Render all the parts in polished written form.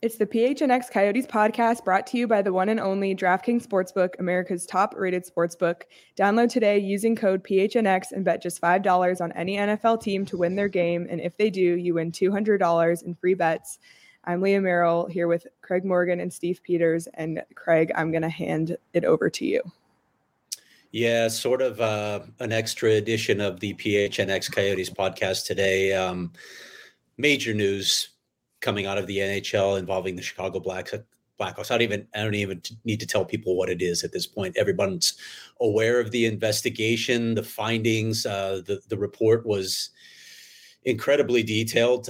It's the PHNX Coyotes podcast brought to you by the one and only DraftKings Sportsbook, America's top-rated sportsbook. Download today using code PHNX and bet just $5 on any NFL team to win their game. And if they do, you win $200 in free bets. I'm Leah Merrill here with Craig Morgan and Steve Peters. And Craig, I'm going to hand it over to you. Yeah, sort of an extra edition of the PHNX Coyotes podcast today. Major news coming out of the NHL involving the Chicago Blackhawks. I don't even need to tell people what it is at this point. Everyone's aware of the investigation, the findings. The report was incredibly detailed.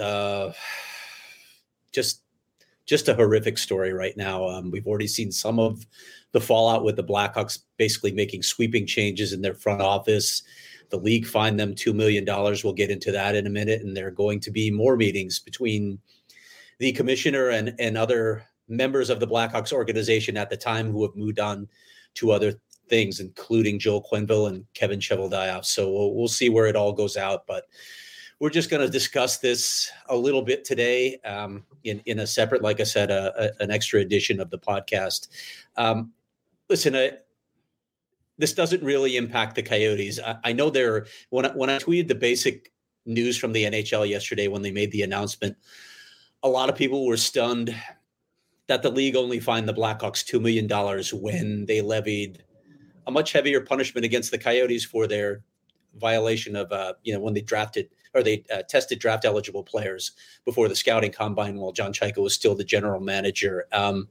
Just a horrific story right now. We've already seen some of the fallout with the Blackhawks basically making sweeping changes in their front office. The league fined them $2 million. We'll get into that in a minute. And there are going to be more meetings between the commissioner and other members of the Blackhawks organization at the time who have moved on to other things, including Joel Quenneville and Kevin Cheveldayoff. So we'll see where it all goes out. But we're just going to discuss this a little bit today in a separate, like I said, an extra edition of the podcast. Listen, this doesn't really impact the Coyotes. I know when I tweeted the basic news from the NHL yesterday when they made the announcement, a lot of people were stunned that the league only fined the Blackhawks $2 million when they levied a much heavier punishment against the Coyotes for their violation of, when they tested draft eligible players before the scouting combine while John Chaika was still the general manager.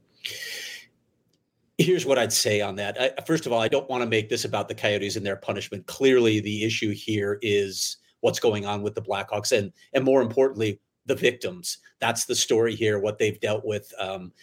Here's what I'd say on that. First of all, I don't want to make this about the Coyotes and their punishment. Clearly, the issue here is what's going on with the Blackhawks and more importantly, the victims. That's the story here, what they've dealt with.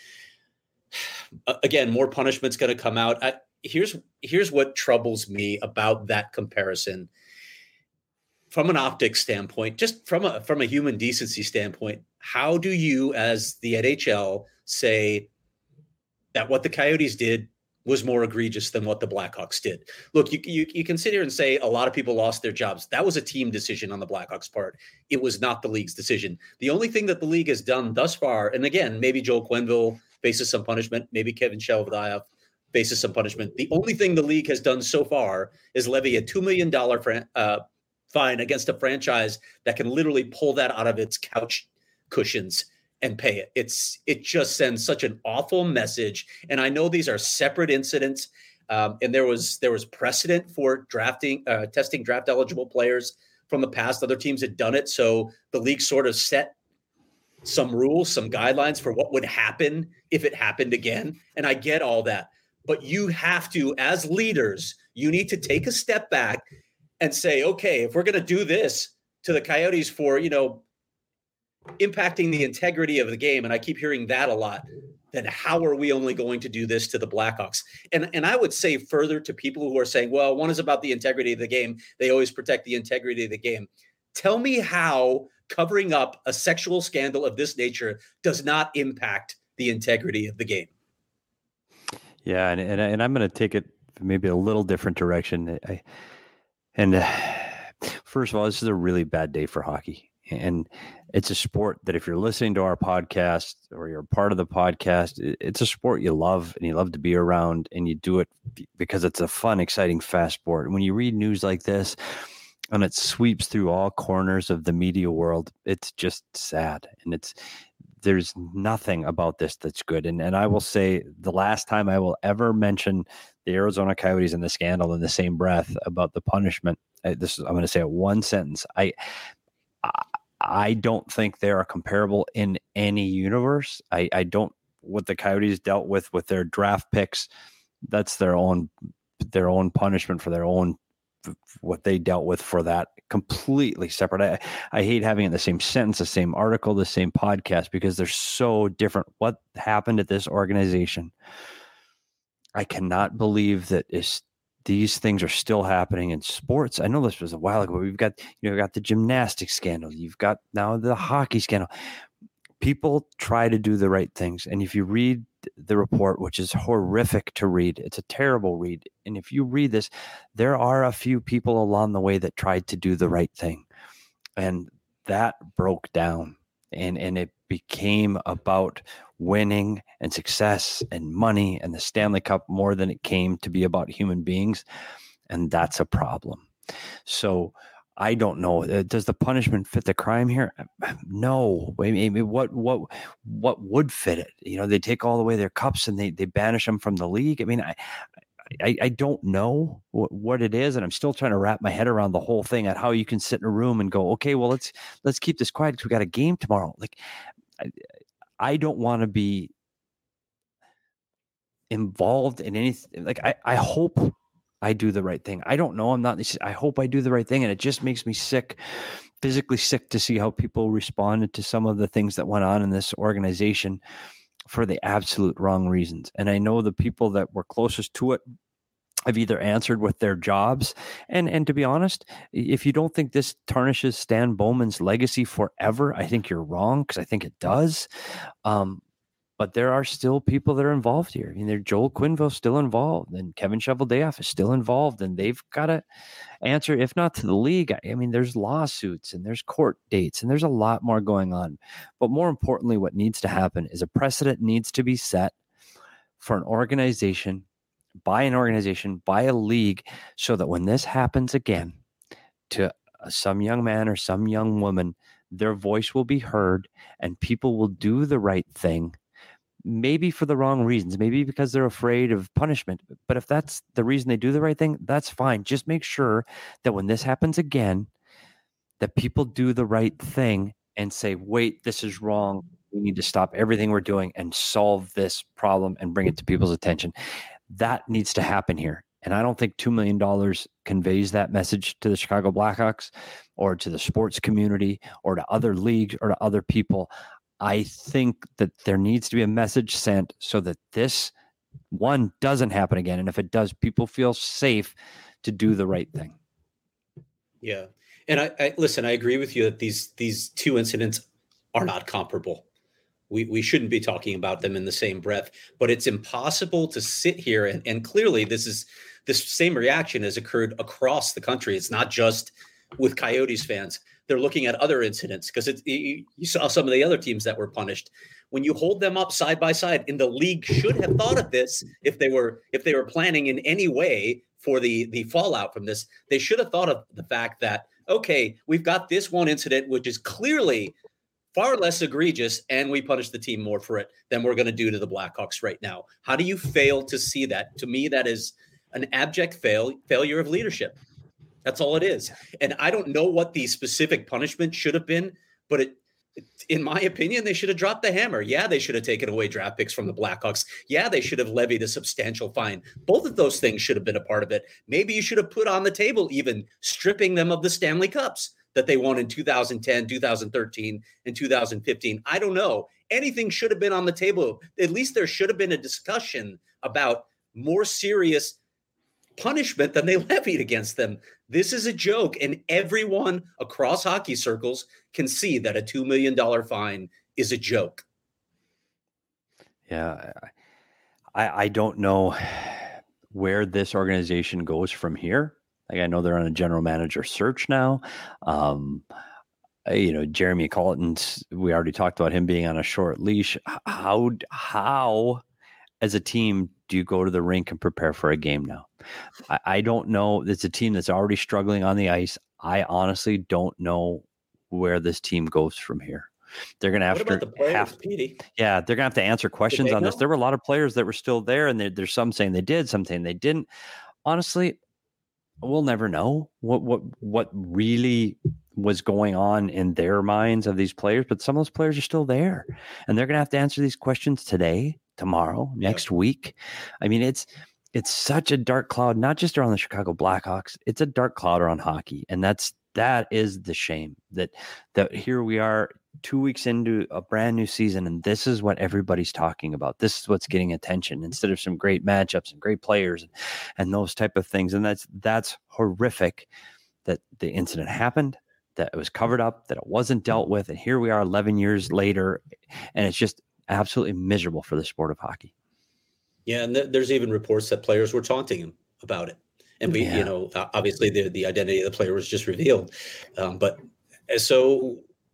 Again, more punishment's going to come out. Here's what troubles me about that comparison. From an optics standpoint, just from a human decency standpoint, how do you, as the NHL, say that what the Coyotes did was more egregious than what the Blackhawks did? Look, you can sit here and say a lot of people lost their jobs. That was a team decision on the Blackhawks' part. It was not the league's decision. The only thing that the league has done thus far, and again, maybe Joel Quenneville faces some punishment, maybe Kevin Cheveldayoff faces some punishment. The only thing the league has done so far is levy a $2 million fine against a franchise that can literally pull that out of its couch cushions and pay it. It just sends such an awful message. And I know these are separate incidents. And there was precedent for testing draft eligible players from the past. Other teams had done it. So the league sort of set some rules, some guidelines for what would happen if it happened again. And I get all that. But you have to, as leaders, you need to take a step back and say, okay, if we're going to do this to the Coyotes for, impacting the integrity of the game, and I keep hearing that a lot, then how are we only going to do this to the Blackhawks? And I would say further to people who are saying, well, one is about the integrity of the game. They always protect the integrity of the game. Tell me how covering up a sexual scandal of this nature does not impact the integrity of the game. Yeah, and I'm going to take it maybe a little different direction. First of all, this is a really bad day for hockey. And it's a sport that if you're listening to our podcast or you're part of the podcast, it's a sport you love and you love to be around, and you do it because it's a fun, exciting, fast sport. And when you read news like this and it sweeps through all corners of the media world, it's just sad. And there's nothing about this that's good. And I will say the last time I will ever mention the Arizona Coyotes and the scandal in the same breath about the punishment, I'm going to say it one sentence. I don't think they are comparable in any universe. I don't, what the Coyotes dealt with their draft picks, that's their own punishment for their own, what they dealt with for that, completely separate. I hate having it in the same sentence, the same article, the same podcast, because they're so different. What happened at this organization, I cannot believe that these things are still happening in sports. I know this was a while ago. We've got, got the gymnastics scandal. You've got now the hockey scandal. People try to do the right things. And if you read the report, which is horrific to read, it's a terrible read. And if you read this, there are a few people along the way that tried to do the right thing. And that broke down. And it became about winning and success and money and the Stanley Cup more than it came to be about human beings. And that's a problem. So I don't know. Does the punishment fit the crime here? No. I mean, what would fit it? They take all away their cups and they banish them from the league. I mean, I don't know what it is, and I'm still trying to wrap my head around the whole thing at how you can sit in a room and go, okay, well, let's keep this quiet because we got a game tomorrow. Like, I don't want to be involved in anything. Like, I hope I do the right thing. I don't know. I hope I do the right thing. And it just makes me sick, physically sick, to see how people responded to some of the things that went on in this organization for the absolute wrong reasons. And I know the people that were closest to it have either answered with their jobs. And to be honest, if you don't think this tarnishes Stan Bowman's legacy forever, I think you're wrong, because I think it does. But there are still people that are involved here. I mean, Joel Quenneville's still involved, and Kevin Cheveldayoff is still involved, and they've got to answer, if not to the league. I mean, there's lawsuits and there's court dates and there's a lot more going on. But more importantly, what needs to happen is a precedent needs to be set for an organization, by a league, so that when this happens again to some young man or some young woman, their voice will be heard and people will do the right thing. Maybe for the wrong reasons, maybe because they're afraid of punishment. But if that's the reason they do the right thing, that's fine. Just make sure that when this happens again, that people do the right thing and say, wait, this is wrong. We need to stop everything we're doing and solve this problem and bring it to people's attention. That needs to happen here. And I don't think $2 million conveys that message to the Chicago Blackhawks or to the sports community or to other leagues or to other people. I think that there needs to be a message sent so that this one doesn't happen again. And if it does, people feel safe to do the right thing. Yeah. And I listen, I agree with you that these two incidents are not comparable. We shouldn't be talking about them in the same breath, but it's impossible to sit here and clearly this same reaction has occurred across the country. It's not just with Coyotes fans. They're looking at other incidents because you saw some of the other teams that were punished. When you hold them up side by side, and the league should have thought of this if they were planning in any way for the fallout from this, they should have thought of the fact that, okay, we've got this one incident which is clearly far less egregious, and we punish the team more for it than we're going to do to the Blackhawks right now. How do you fail to see that? To me, that is an abject failure of leadership. That's all it is. And I don't know what the specific punishment should have been, but in my opinion, they should have dropped the hammer. Yeah, they should have taken away draft picks from the Blackhawks. Yeah, they should have levied a substantial fine. Both of those things should have been a part of it. Maybe you should have put on the table even stripping them of the Stanley Cups that they won in 2010, 2013, and 2015. I don't know. Anything should have been on the table. At least there should have been a discussion about more serious punishment than they levied against them. This is a joke, and everyone across hockey circles can see that a $2 million fine is a joke. Yeah, I don't know where this organization goes from here. Like, I know they're on a general manager search now. Jeremy Colleton's, we already talked about him being on a short leash. How as a team do you go to the rink and prepare for a game now? I don't know. It's a team that's already struggling on the ice. I honestly don't know where this team goes from here. They're going to have they're going to have to answer questions on this. There were a lot of players that were still there, and there's some saying they did, some saying they didn't. Honestly, we'll never know what really was going on in their minds of these players, but some of those players are still there, and they're going to have to answer these questions today, tomorrow, next week. I mean, it's such a dark cloud, not just around the Chicago Blackhawks. It's a dark cloud around hockey, and that is the shame that here we are 2 weeks into a brand new season, and this is what everybody's talking about. This is what's getting attention instead of some great matchups and great players and those type of things. And that's horrific that the incident happened, that it was covered up, that it wasn't dealt with, and here we are 11 years later, and it's just absolutely miserable for the sport of hockey. Yeah, and there's even reports that players were taunting him about it. And obviously the identity of the player was just revealed. But so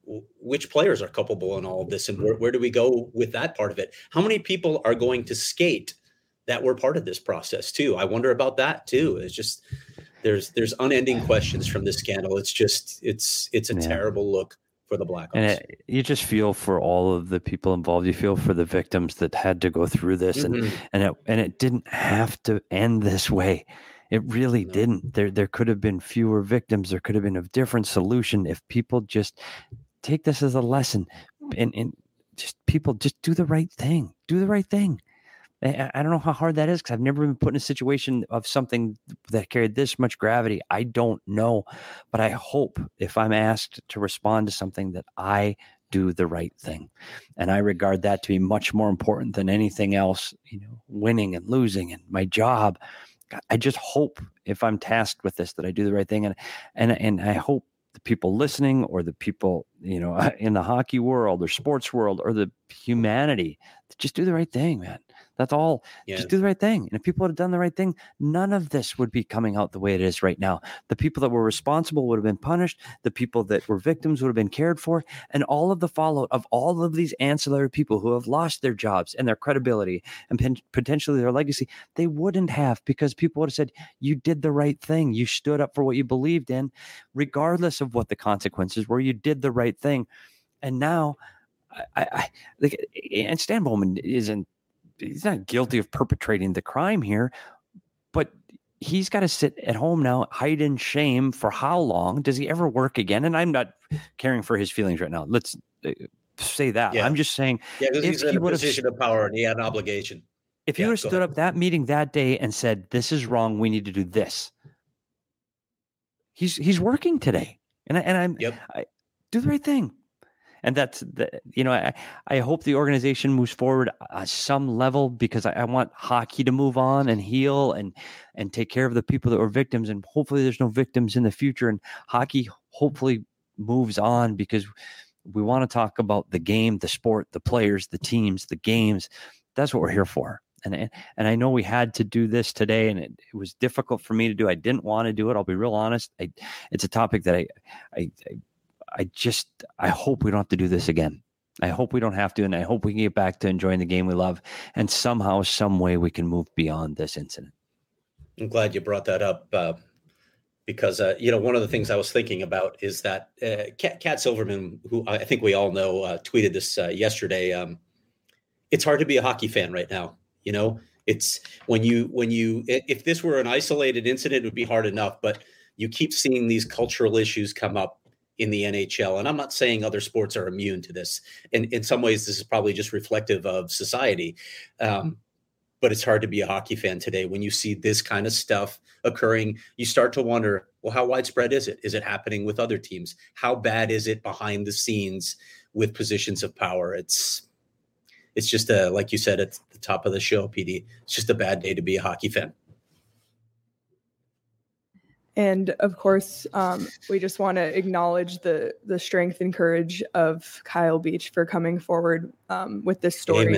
which players are culpable in all of this, and where do we go with that part of it? How many people are going to skate that were part of this process too? I wonder about that too. It's just there's unending questions from this scandal. It's just it's a terrible look for the Blackhawks. And you just feel for all of the people involved. You feel for the victims that had to go through this, and it didn't have to end this way. It really didn't. There could have been fewer victims. There could have been a different solution if people just take this as a lesson, and just people just do the right thing. Do the right thing. I don't know how hard that is, because I've never been put in a situation of something that carried this much gravity. I don't know, but I hope if I'm asked to respond to something that I do the right thing. And I regard that to be much more important than anything else, winning and losing and my job. I just hope if I'm tasked with this that I do the right thing. And I hope the people listening, or the people, in the hockey world or sports world, or the humanity, just do the right thing, man. That's all. Yeah. Just do the right thing. And if people had done the right thing, none of this would be coming out the way it is right now. The people that were responsible would have been punished. The people that were victims would have been cared for. And all of the fallout of all of these ancillary people who have lost their jobs and their credibility and potentially their legacy, they wouldn't have, because people would have said, you did the right thing. You stood up for what you believed in, regardless of what the consequences were. You did the right thing. And now, and Stan Bowman he's not guilty of perpetrating the crime here, but he's got to sit at home now, hide in shame for how long? Does he ever work again? And I'm not caring for his feelings right now. Let's say that. Yeah. I'm just saying, because he's in a position of power and he had an obligation. If he would have stood up that meeting that day and said, this is wrong, we need to do this, he's working today. And I do the right thing. And that's I hope the organization moves forward at some level, because I want hockey to move on and heal and take care of the people that were victims. And hopefully there's no victims in the future, and hockey hopefully moves on, because we want to talk about the game, the sport, the players, the teams, the games. That's what we're here for. And I know we had to do this today, and it was difficult for me to do. I didn't want to do it. I'll be real honest. It's a topic that I hope we don't have to do this again. I hope we don't have to, and I hope we can get back to enjoying the game we love, and somehow, some way we can move beyond this incident. I'm glad you brought that up, because, one of the things I was thinking about is that Cat Silverman, who I think we all know, tweeted this yesterday. It's hard to be a hockey fan right now. It's when you if this were an isolated incident, it would be hard enough, but you keep seeing these cultural issues come up in the NHL. And I'm not saying other sports are immune to this. And in some ways, this is probably just reflective of society. But it's hard to be a hockey fan today. When you see this kind of stuff occurring, you start to wonder, well, how widespread is it? Is it happening with other teams? How bad is it behind the scenes with positions of power? It's just like you said at the top of the show, PD, it's just a bad day to be a hockey fan. And of course, we just want to acknowledge the strength and courage of Kyle Beach for coming forward with this story.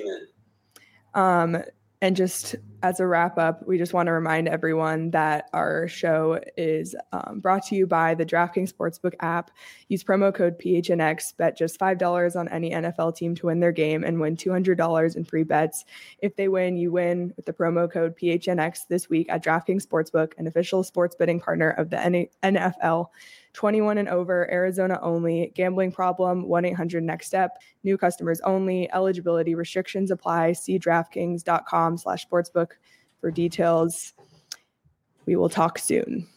Amen. And just as a wrap up, we just want to remind everyone that our show is brought to you by the DraftKings Sportsbook app. Use promo code PHNX, bet just $5 on any NFL team to win their game and win $200 in free bets. If they win, you win with the promo code PHNX this week at DraftKings Sportsbook, an official sports betting partner of the NFL. 21 and over, Arizona only. Gambling problem, 1-800-NEXT-STEP. New customers only. Eligibility restrictions apply. See DraftKings.com/sportsbook for details. We will talk soon.